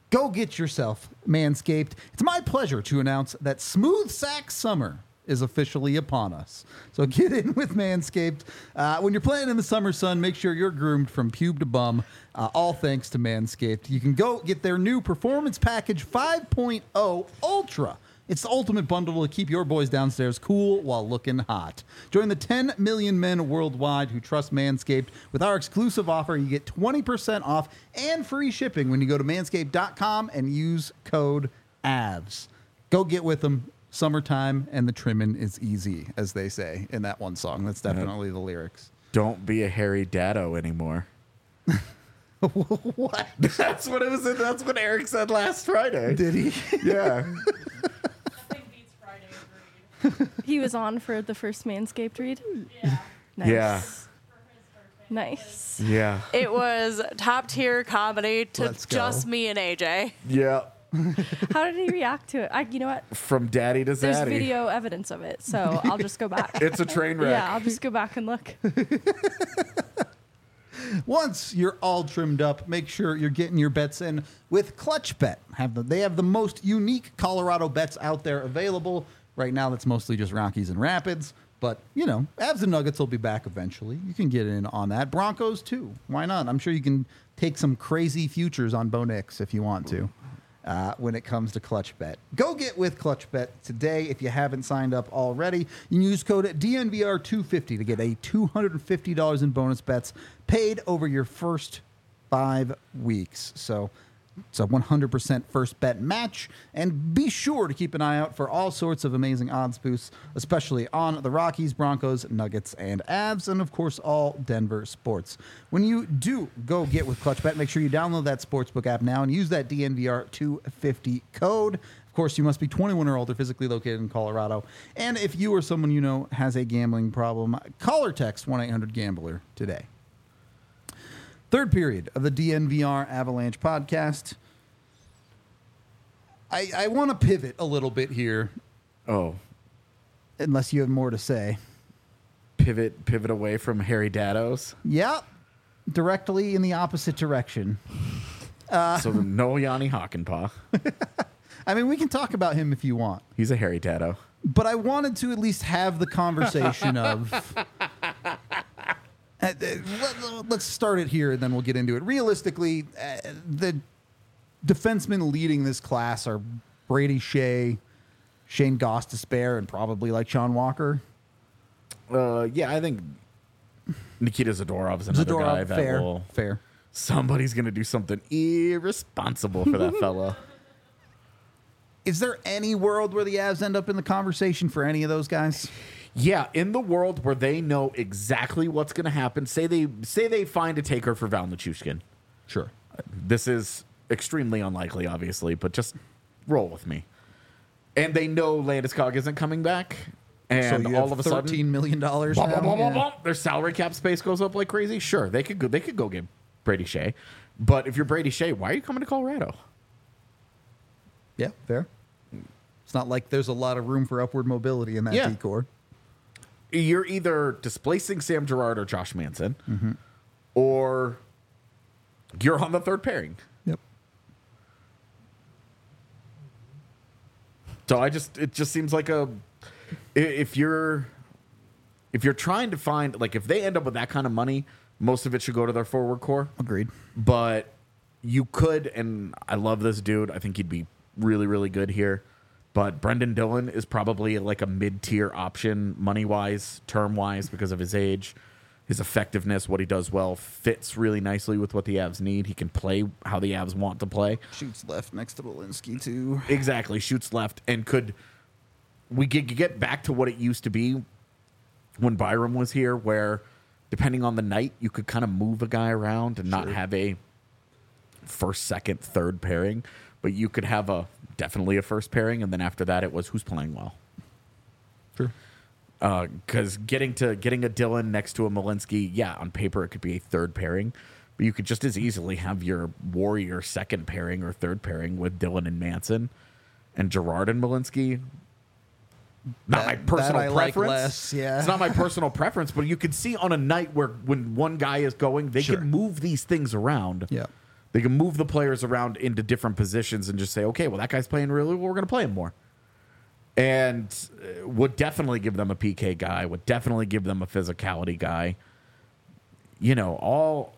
Go get yourself Manscaped. It's my pleasure to announce that Smooth Sack Summer is officially upon us. So get in with Manscaped. When you're playing in the summer sun, make sure you're groomed from pube to bum, all thanks to Manscaped. You can go get their new Performance Package 5.0 Ultra. It's the ultimate bundle to keep your boys downstairs cool while looking hot. Join the 10 million men worldwide who trust Manscaped. With our exclusive offer, you get 20% off and free shipping when you go to manscaped.com and use code AVS. Go get with them. Summertime and the trimming is easy, as they say in that one song. That's definitely the lyrics. Don't be a hairy daddo anymore. What? That's what it was. That's what Eric said last Friday. Did he? Yeah. Nothing beats Friday read. He was on for the first Manscaped read. Yeah. Nice. Yeah. Nice. Yeah. It was top tier comedy to Let's go. just me and AJ. Yeah. How did he react to it? You know what? From daddy to There's zaddy. video evidence of it, so I'll just go back. It's a train wreck. Yeah, I'll just go back and look. Once you're all trimmed up, make sure you're getting your bets in with Clutch Bet. They have the most unique Colorado bets out there available. Right now, that's mostly just Rockies and Rapids. But, Avs and Nuggets will be back eventually. You can get in on that. Broncos, too. Why not? I'm sure you can take some crazy futures on Bo Nix if you want to when it comes to Clutch Bet. Go get with Clutch Bet today if you haven't signed up already. You can use code DNVR250 to get a $250 in bonus bets paid over your first 5 weeks. So it's a 100% first bet match. And be sure to keep an eye out for all sorts of amazing odds boosts, especially on the Rockies, Broncos, Nuggets, and Avs, and of course, all Denver sports. When you do go get with Clutch Bet, make sure you download that sportsbook app now and use that DNVR250 code. Of course, you must be 21 or older, physically located in Colorado. And if you or someone you know has a gambling problem, call or text 1-800-GAMBLER today. Third period of the DNVR Avalanche podcast. I want to pivot a little bit here, Oh. unless you have more to say. Pivot away from hairy daddos. Yeah, directly in the opposite direction. So no Yanni Hakanpää. I mean, we can talk about him if you want, He's a hairy daddo. but I wanted to at least have the conversation of... let's start it here, and then we'll get into it. Realistically, the defensemen leading this class are Brady Shea, Shane Gostisbehere, and probably like Sean Walker. Yeah, I think Nikita Zadorov is another guy that fair. Somebody's going to do something irresponsible for that fella. Is there any world where the Avs end up in the conversation for any of those guys? Yeah, in the world where they know exactly what's going to happen, say they find a taker for Val Nichushkin. Sure. This is extremely unlikely, obviously, but just roll with me. And they know Landeskog isn't coming back, and so you all have of a sudden, $13 million now? Yeah. their salary cap space goes up like crazy. Sure, they could go get Brady Shea, but if you're Brady Shea, why are you coming to Colorado? Yeah, fair. It's not like there's a lot of room for upward mobility in that decor. You're either displacing Sam Girard or Josh Manson, or you're on the third pairing. Yep. So it just seems like if you're trying to find, like, if they end up with that kind of money, most of it should go to their forward core. Agreed. But you could, and I love this dude. I think he'd be really, really good here. But Brendan Dillon is probably like a mid-tier option money-wise, term-wise, because of his age. His effectiveness, what he does well, fits really nicely with what the Avs need. He can play how the Avs want to play. Shoots left next to Walensky, too. Exactly, shoots left. And we get back to what it used to be when Byram was here, where depending on the night, you could kind of move a guy around and not have a first, second, third pairing. But you could have definitely a first pairing, and then after that, it was who's playing well. Sure. Because getting a Dillon next to a Malinsky, yeah, on paper it could be a third pairing, but you could just as easily have your Warrior second pairing or third pairing with Dillon and Manson, and Girard and Malinsky. Not my personal preference. Like less, yeah. It's not my personal preference, but you could see on a night when one guy is going, they can move these things around. Yeah. They can move the players around into different positions and just say, okay, well, that guy's playing really well. We're going to play him more. And would definitely give them a PK guy, would definitely give them a physicality guy. You know, all.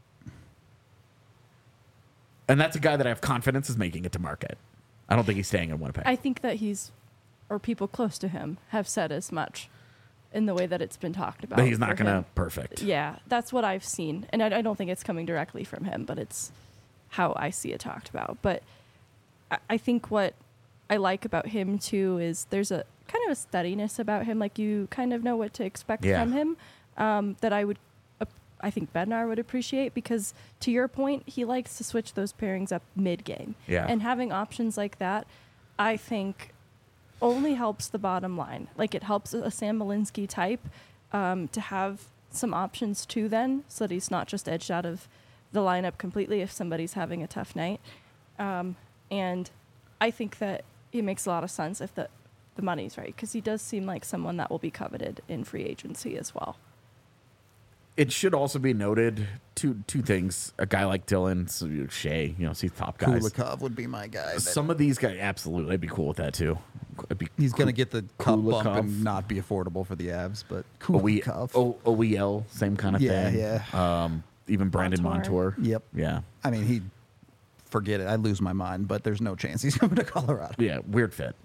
And that's a guy that I have confidence is making it to market. I don't think he's staying in Winnipeg. I think that or people close to him have said as much in the way that it's been talked about. But he's not for going to him. perfect. Yeah, that's what I've seen. And I don't think it's coming directly from him, but it's how I see it talked about. But I think what I like about him, too, is there's a kind of a steadiness about him. Like, you kind of know what to expect from him that I think Bednar would appreciate, because to your point, he likes to switch those pairings up mid-game. Yeah. And having options like that, I think, only helps the bottom line. Like, it helps a Sam Malinsky type to have some options too then, so that he's not just edged out of the lineup completely if somebody's having a tough night. And I think that it makes a lot of sense if the money's right, because he does seem like someone that will be coveted in free agency as well. It should also be noted, two things. A guy like Dylan, Shea, you know, he's top guys. Kulikov would be my guy. Some of these guys, absolutely, I'd be cool with that too. He's going to get the cup bump Kulikov. and not be affordable for the Avs, but OEL, Kulikov. OEL, same kind of thing. Yeah. Even Brandon Montour. Montour. Yep. Yeah. I mean, forget it. I'd lose my mind, but there's no chance he's coming to Colorado. Yeah, weird fit.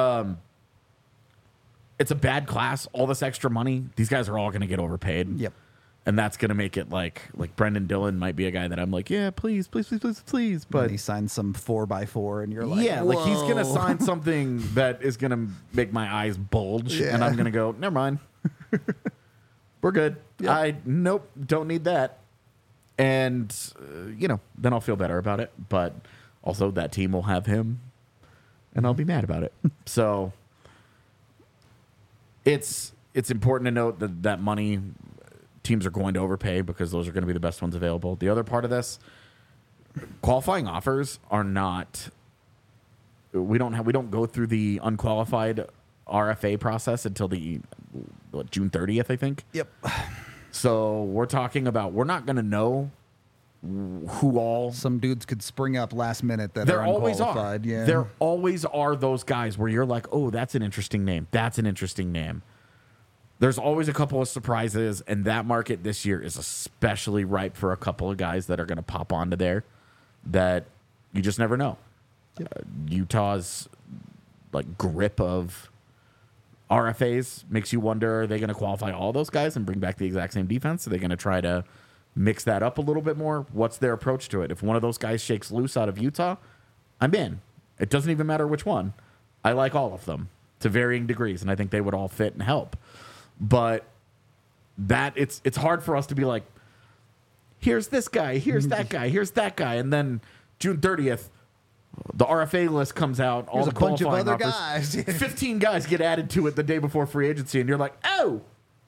It's a bad class. All this extra money, these guys are all going to get overpaid. Yep. And that's going to make it like Brendan Dillon might be a guy that I'm like, yeah, please. But But he signs some 4x4, and you're like, yeah, like he's going to "Whoa." sign something that is going to make my eyes bulge. Yeah. And I'm going to go, never mind. We're good. Yep. Nope, don't need that. And, then I'll feel better about it. But also that team will have him, and I'll be mad about it. So it's important to note that money teams are going to overpay because those are going to be the best ones available. The other part of this, qualifying offers are not. We don't go through the unqualified RFA process until the June 30th, I think. Yep. So we're talking about we're not going to know who all. Some dudes could spring up last minute that There are always are. unqualified. Yeah. There always are those guys where you're like, oh, that's an interesting name. That's an interesting name. There's always a couple of surprises, and that market this year is especially ripe for a couple of guys that are going to pop onto there that you just never know. Yep. Utah's grip of RFAs makes you wonder, are they going to qualify all those guys and bring back the exact same defense? Are they going to try to mix that up a little bit more? What's their approach to it? If one of those guys shakes loose out of Utah, I'm in. It doesn't even matter which one. I like all of them to varying degrees, and I think they would all fit and help. But it's hard for us to be like, here's this guy, here's that guy, here's that guy, and then June 30th, the RFA list comes out. All There's the a bunch of qualifying other offers. guys. 15 guys get added to it the day before free agency, and you're like, oh,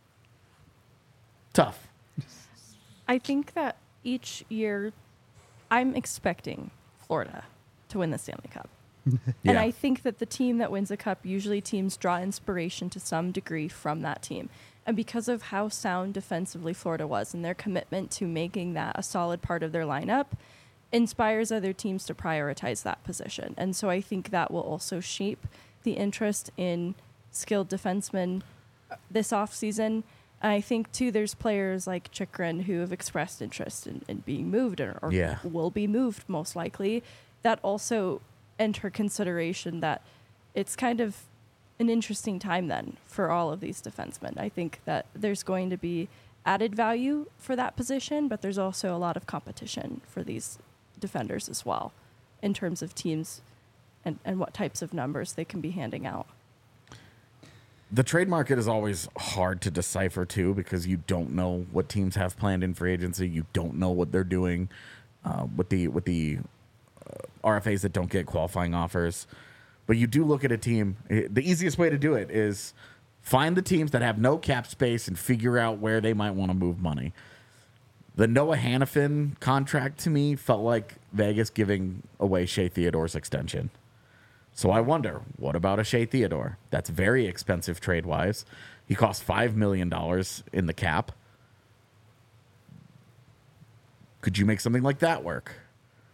tough. I think that each year I'm expecting Florida to win the Stanley Cup. And Yeah. I think that the team that wins a cup, usually teams draw inspiration to some degree from that team. And because of how sound defensively Florida was and their commitment to making that a solid part of their lineup, inspires other teams to prioritize that position. And so I think that will also shape the interest in skilled defensemen this offseason. And I think, too, there's players like Chychrun who have expressed interest in being moved or Yeah. will be moved, most likely. That also enter consideration that it's kind of an interesting time then for all of these defensemen. I think that there's going to be added value for that position, but there's also a lot of competition for these defenders as well in terms of teams and what types of numbers they can be handing out. The trade market is always hard to decipher, too, because you don't know what teams have planned in free agency. You don't know what they're doing with the RFAs that don't get qualifying offers. But you do look at a team. The easiest way to do it is find the teams that have no cap space and figure out where they might want to move money. The Noah Hannafin contract to me felt like Vegas giving away Shea Theodore's extension. So I wonder, what about a Shea Theodore? That's very expensive trade-wise. He cost $5 million in the cap. Could you make something like that work?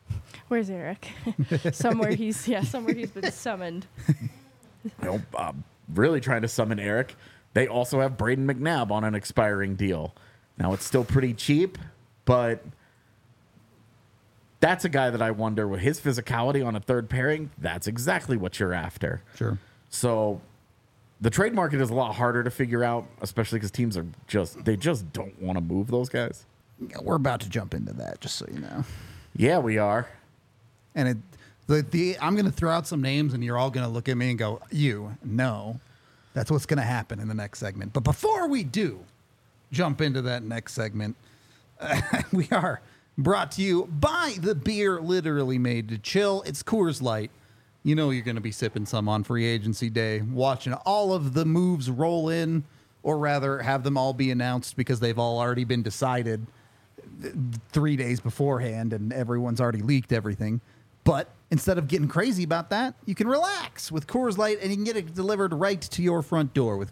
Where's Eric? somewhere he's been summoned. I'm really trying to summon Eric. They also have Braden McNabb on an expiring deal. Now, it's still pretty cheap, but that's a guy that I wonder, with his physicality on a third pairing, that's exactly what you're after. Sure. So the trade market is a lot harder to figure out, especially because teams are just don't want to move those guys. Yeah, we're about to jump into that, just so you know. Yeah, we are. And I'm going to throw out some names, and you're all going to look at me and go, no. That's what's going to happen in the next segment. But before we do jump into that next segment, we are brought to you by the beer literally made to chill. It's Coors Light. You know you're going to be sipping some on free agency day, watching all of the moves roll in, or rather have them all be announced because they've all already been decided 3 days beforehand and everyone's already leaked everything. But instead of getting crazy about that, you can relax with Coors Light, and you can get it delivered right to your front door with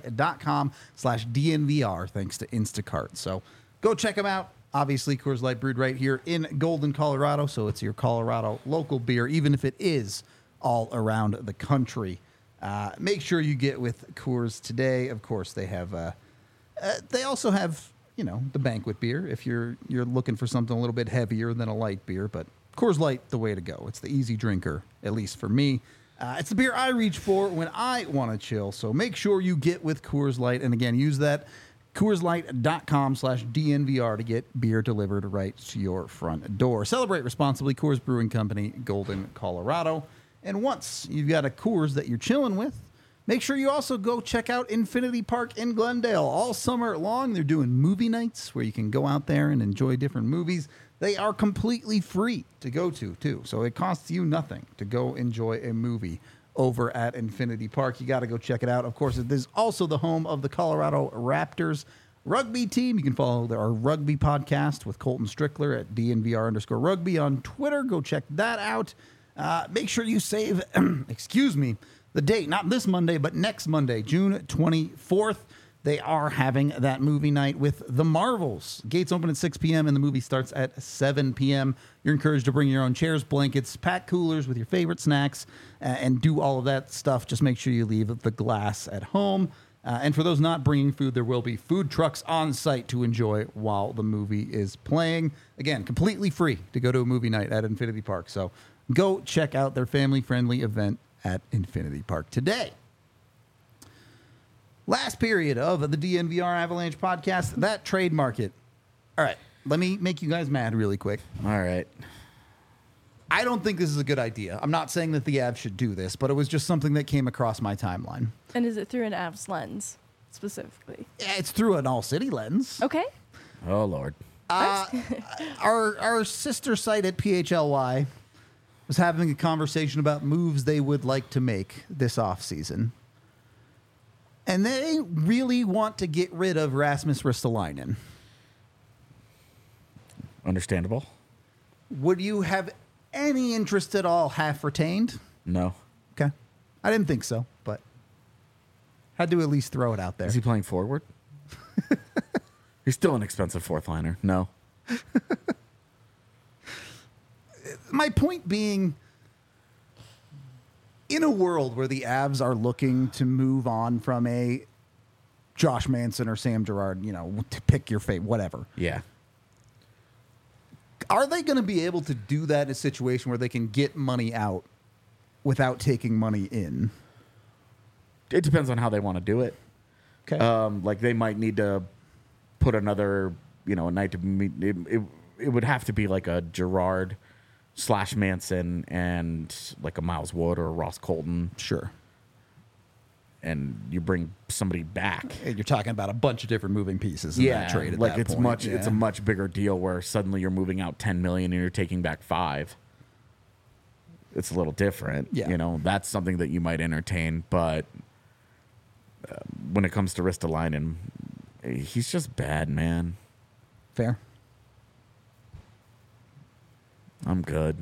CoorsLight.com/DNVR, thanks to Instacart. So go check them out. Obviously, Coors Light brewed right here in Golden, Colorado, so it's your Colorado local beer, even if it is all around the country. Make sure you get with Coors today. Of course, they have. They also have, the banquet beer if you're looking for something a little bit heavier than a light beer, but Coors Light, the way to go. It's the easy drinker, at least for me. It's the beer I reach for when I want to chill. So make sure you get with Coors Light. And again, use that CoorsLight.com/DNVR to get beer delivered right to your front door. Celebrate responsibly. Coors Brewing Company, Golden, Colorado. And once you've got a Coors that you're chilling with, make sure you also go check out Infinity Park in Glendale. All summer long, they're doing movie nights where you can go out there and enjoy different movies. They are completely free to go to, too. So it costs you nothing to go enjoy a movie over at Infinity Park. You got to go check it out. Of course, it is also the home of the Colorado Raptors rugby team. You can follow our rugby podcast with Colton Strickler at DNVR_rugby on Twitter. Go check that out. Make sure you save, the date, not this Monday, but next Monday, June 24th. They are having that movie night with The Marvels. Gates open at 6 p.m. and the movie starts at 7 p.m. You're encouraged to bring your own chairs, blankets, pack coolers with your favorite snacks, and do all of that stuff. Just make sure you leave the glass at home. And for those not bringing food, there will be food trucks on site to enjoy while the movie is playing. Again, completely free to go to a movie night at Infinity Park. So go check out their family-friendly event at Infinity Park today. Last period of the DNVR Avalanche podcast, that trade market. All right, let me make you guys mad really quick. All right. I don't think this is a good idea. I'm not saying that the Avs should do this, but it was just something that came across my timeline. And is it through an Avs lens, specifically? Yeah, it's through an all-city lens. Okay. Oh, Lord. Our sister site at PHLY was having a conversation about moves they would like to make this offseason. And they really want to get rid of Rasmus Ristolainen. Understandable. Would you have any interest at all half retained? No. Okay. I didn't think so, but had to at least throw it out there. Is he playing forward? He's still an expensive fourth liner. No. My point being, in a world where the Avs are looking to move on from a Josh Manson or Sam Girard, to pick your fate, whatever. Yeah. Are they going to be able to do that in a situation where they can get money out without taking money in? It depends on how they want to do it. Okay. Like they might need to put another, a night to meet. It would have to be like a Girard / Manson and like a Miles Wood or a Ross Colton. Sure. And you bring somebody back. You're talking about a bunch of different moving pieces in that trade at like that it's point. much. It's a much bigger deal where suddenly you're moving out $10 million and you're taking back $5 million. It's a little different. Yeah. That's something that you might entertain. But when it comes to Ristolainen, he's just bad, man. Fair. I'm good.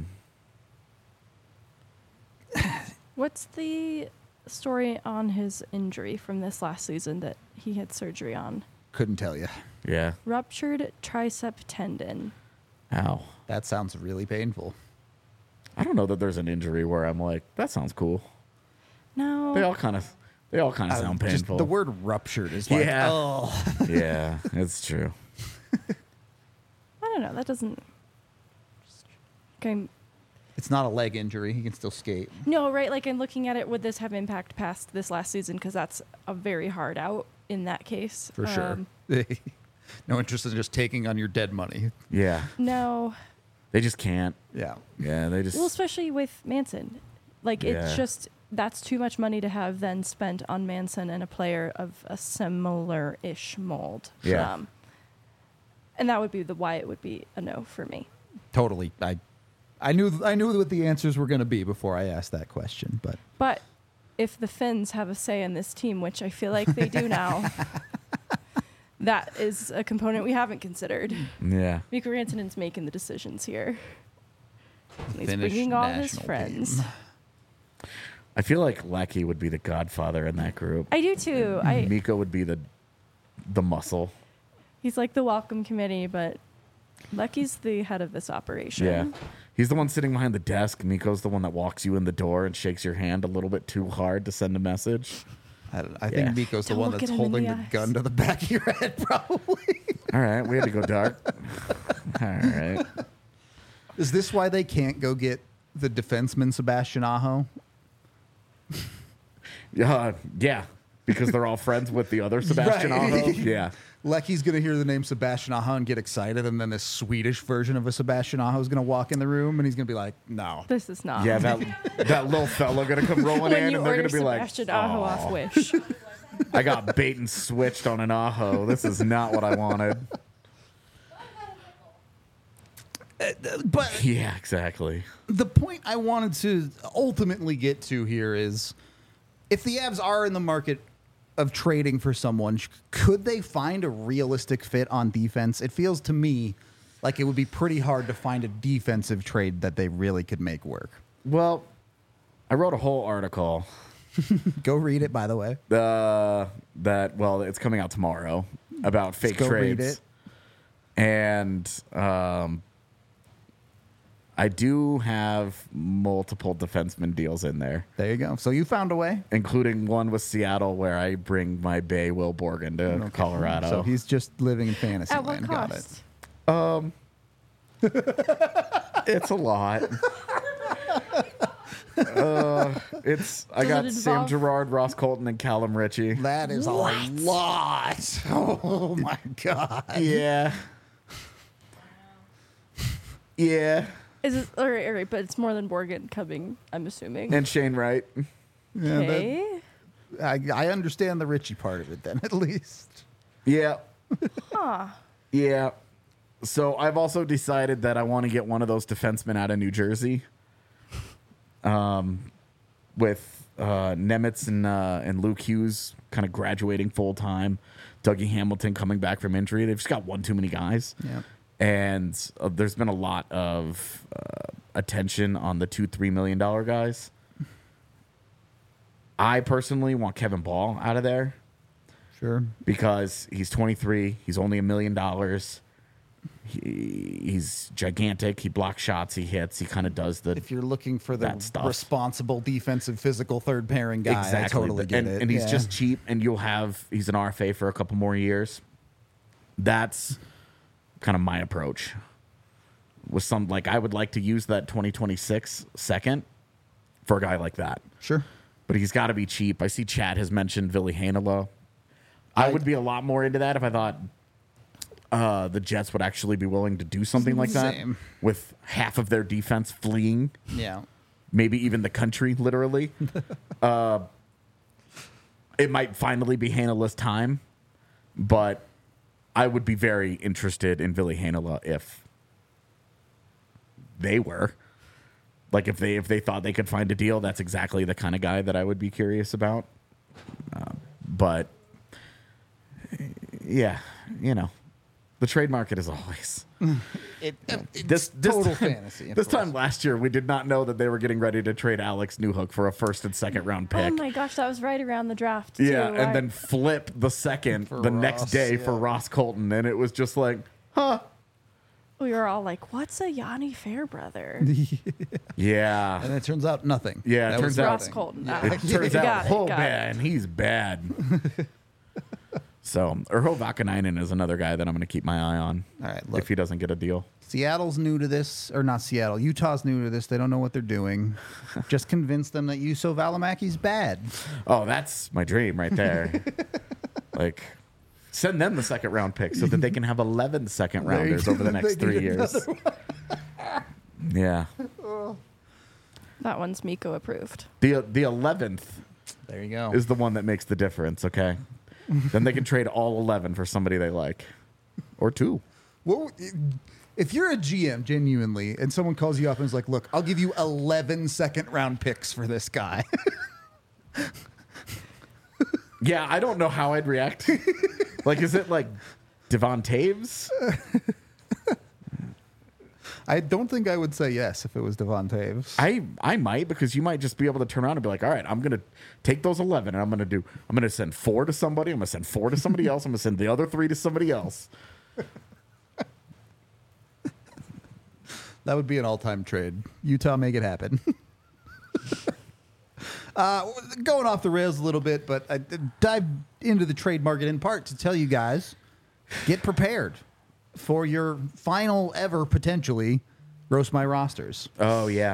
What's the story on his injury from this last season that he had surgery on? Couldn't tell you. Yeah. Ruptured tricep tendon. Ow. That sounds really painful. I don't know that there's an injury where I'm like, that sounds cool. No. They all kind of sound Just painful. the word ruptured is like, Yeah. oh. Yeah, it's true. I don't know. That doesn't. Okay. It's not a leg injury. He can still skate. No, right? Like, I'm looking at it. Would this have impact past this last season? Because that's a very hard out in that case. For sure. No interest in just taking on your dead money. Yeah. No. They just can't. Yeah. Yeah, they just Well, especially with Manson. Like, it's Yeah. just, that's too much money to have then spent on Manson and a player of a similar-ish mold. Yeah. And that would be why it would be a no for me. Totally. I knew what the answers were going to be before I asked that question, but But if the Finns have a say in this team, which I feel like they do now, that is a component we haven't considered. Yeah. Mikko Rantanen's making the decisions here. And he's Finnish bringing all his national friends. team. I feel like Lecky would be the godfather in that group. I do too. Miko would be the muscle. He's like the welcome committee, but Lecky's the head of this operation. Yeah. He's the one sitting behind the desk. Miko's the one that walks you in the door and shakes your hand a little bit too hard to send a message. I Yeah. think Miko's the Don't one look that's at him in holding the the eyes. gun to the back of your head, probably. All right, we had to go dark. All right. Is this why they can't go get the defenseman Sebastian Aho? Yeah, because they're all friends with the other Sebastian Right. Aho. Yeah. Lecky's going to hear the name Sebastian Aho and get excited, and then this Swedish version of a Sebastian Aho is going to walk in the room, and he's going to be like, no. This is not. Yeah, that little fella gonna come rolling when in, you and they're order gonna be like, Sebastian Aho off "Aw, Wish. I got bait and switched on an Aho. This is not what I wanted." But Yeah, exactly. the point I wanted to ultimately get to here is if the Avs are in the market of trading for someone, could they find a realistic fit on defense? It feels to me like it would be pretty hard to find a defensive trade that they really could make work. Well, I wrote a whole article Go read it, by the way. it's coming out tomorrow about fake go read trades. it. And I do have multiple defenseman deals in there, There you go. So you found a way. including one with Seattle where I bring my Bay Will Borgen to Colorado. So he's just living in fantasy At what land. Got it. cost? It's a lot. I got it Sam involve- Girard, Ross Colton, and Callum Ritchie. That is a lot. Oh my god. Yeah. Yeah. Is it all right? But it's more than Borgen coming. I'm assuming. And Shane Wright. Yeah, that- Okay. I understand the Richie part of it then, at least. Yeah. Huh. Yeah. So I've also decided that I want to get one of those defensemen out of New Jersey. With Nemitz and Luke Hughes kind of graduating full time, Dougie Hamilton coming back from injury. They've just got one too many guys. Yeah. And there's been a lot of attention on the $2-3 million guys. I personally want Kevin Ball out of there Sure. because he's 23. He's only $1 million. He's gigantic. He blocks shots. He hits. He kind of does the If you're looking for the that stuff. responsible defensive physical third pairing guy, I totally get it. And he's Yeah. just cheap, and he's an RFA for a couple more years. That's kind of my approach. With I would like to use that 2026 second for a guy like that. Sure. But he's got to be cheap. I see Chad has mentioned Ville Heinola. I would be a lot more into that if I thought the Jets would actually be willing to do something like that Same. with half of their defense fleeing, Yeah. maybe even the country, literally. It might finally be Heinola's time, but I would be very interested in Ville Heinola if they were. Like if they thought they could find a deal, that's exactly the kind of guy that I would be curious about. But yeah, the trade market is always It's total fantasy. of This course. time last year, we did not know that they were getting ready to trade Alex Newhook for a first and second round pick. Oh my gosh, that was right around the draft. Too. Yeah, and I- then flip the second For the next Ross, day yeah. for Ross Colton, and it was just like, huh, We were all like, "What's a Yanni Fairbrother?" Yeah. And it turns out nothing. Yeah, it That turns was out- Ross nothing. Colton. It turns out, oh man, he's bad. So, Urho Vakanainen is another guy that I'm going to keep my eye on. All right, look. If he doesn't get a deal. Seattle's new to this, or not Seattle. Utah's new to this. They don't know what they're doing. Just convince them that Juuso Välimäki's bad. Oh, that's my dream right there. Like, send them the second round pick so that they can have 11 second rounders over the next They 3 need years. Yeah. That one's Miko approved. The 11th There you go. is the one that makes the difference, okay? Then they can trade all 11 for somebody they like. Or 2. What, if you're a GM, genuinely, and someone calls you up and is like, look, I'll give you 11 second round picks for this guy. Yeah, I don't know how I'd react. Like, is it like Devon Taves? I don't think I would say yes if it was Devon Taves. I might, because you might just be able to turn around and be like, all right, I'm gonna take those 11 and I'm gonna send 4 to somebody, I'm gonna send 4 to somebody else, I'm gonna send the other 3 to somebody else. That would be an all-time trade. Utah, make it happen. Going off the rails a little bit, but I dive into the trade market in part to tell you guys, get prepared for your final ever, potentially, Roast My Rosters. Oh yeah.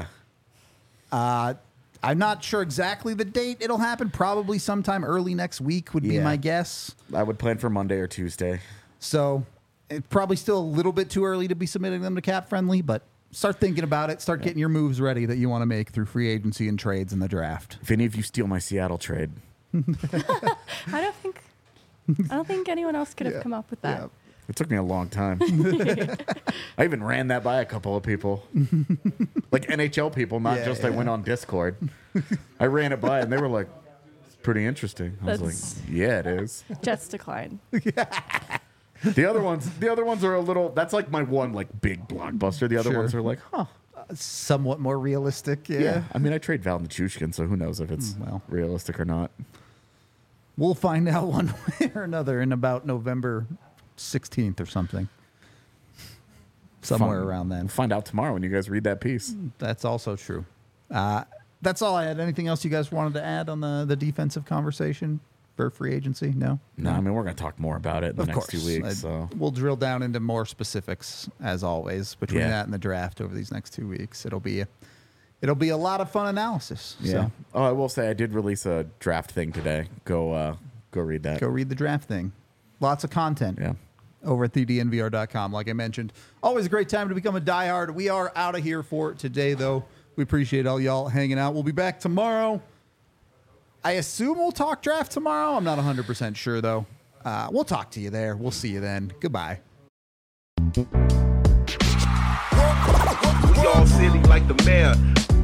I'm not sure exactly the date it'll happen. Probably sometime early next week would be Yeah. my guess. I would plan for Monday or Tuesday. So it's probably still a little bit too early to be submitting them to Cap Friendly, but start thinking about it. Start getting your moves ready that you want to make through free agency and trades in the draft. If any of you steal my Seattle trade, I don't think anyone else could have come up with that. Yeah. it took me a long time. I even ran that by a couple of people, like NHL people, not just I went on Discord. I ran it by and they were like, "It's pretty interesting." I was That's- like, "Yeah, it is." Jets decline. The other ones are a little. That's like my one like big blockbuster. The other Sure. ones are like, huh. Somewhat more realistic. Yeah. I mean, I trade Val Nichushkin, so who knows if it's well. realistic or not. We'll find out one way or another in about November 16th or something. Somewhere Fun. around then. We'll find out tomorrow when you guys read that piece. That's also true. That's all I had. Anything else you guys wanted to add on the defensive conversation for free agency? No? No, I mean, we're going to talk more about it in the next 2 weeks. So We'll drill down into more specifics, as always, between Yeah. that and the draft over these next 2 weeks. It'll be a lot of fun analysis. yeah. So Oh, I will say I did release a draft thing today. Go read that. go read the draft thing. Lots of content. Yeah. Over at thednvr.com, like I mentioned. Always a great time to become a diehard. We are out of here for today, though. We appreciate all y'all hanging out. We'll be back tomorrow. I assume we'll talk draft tomorrow. I'm not 100% sure, though. We'll talk to you there. We'll see you then. Goodbye. We all silly like the mayor.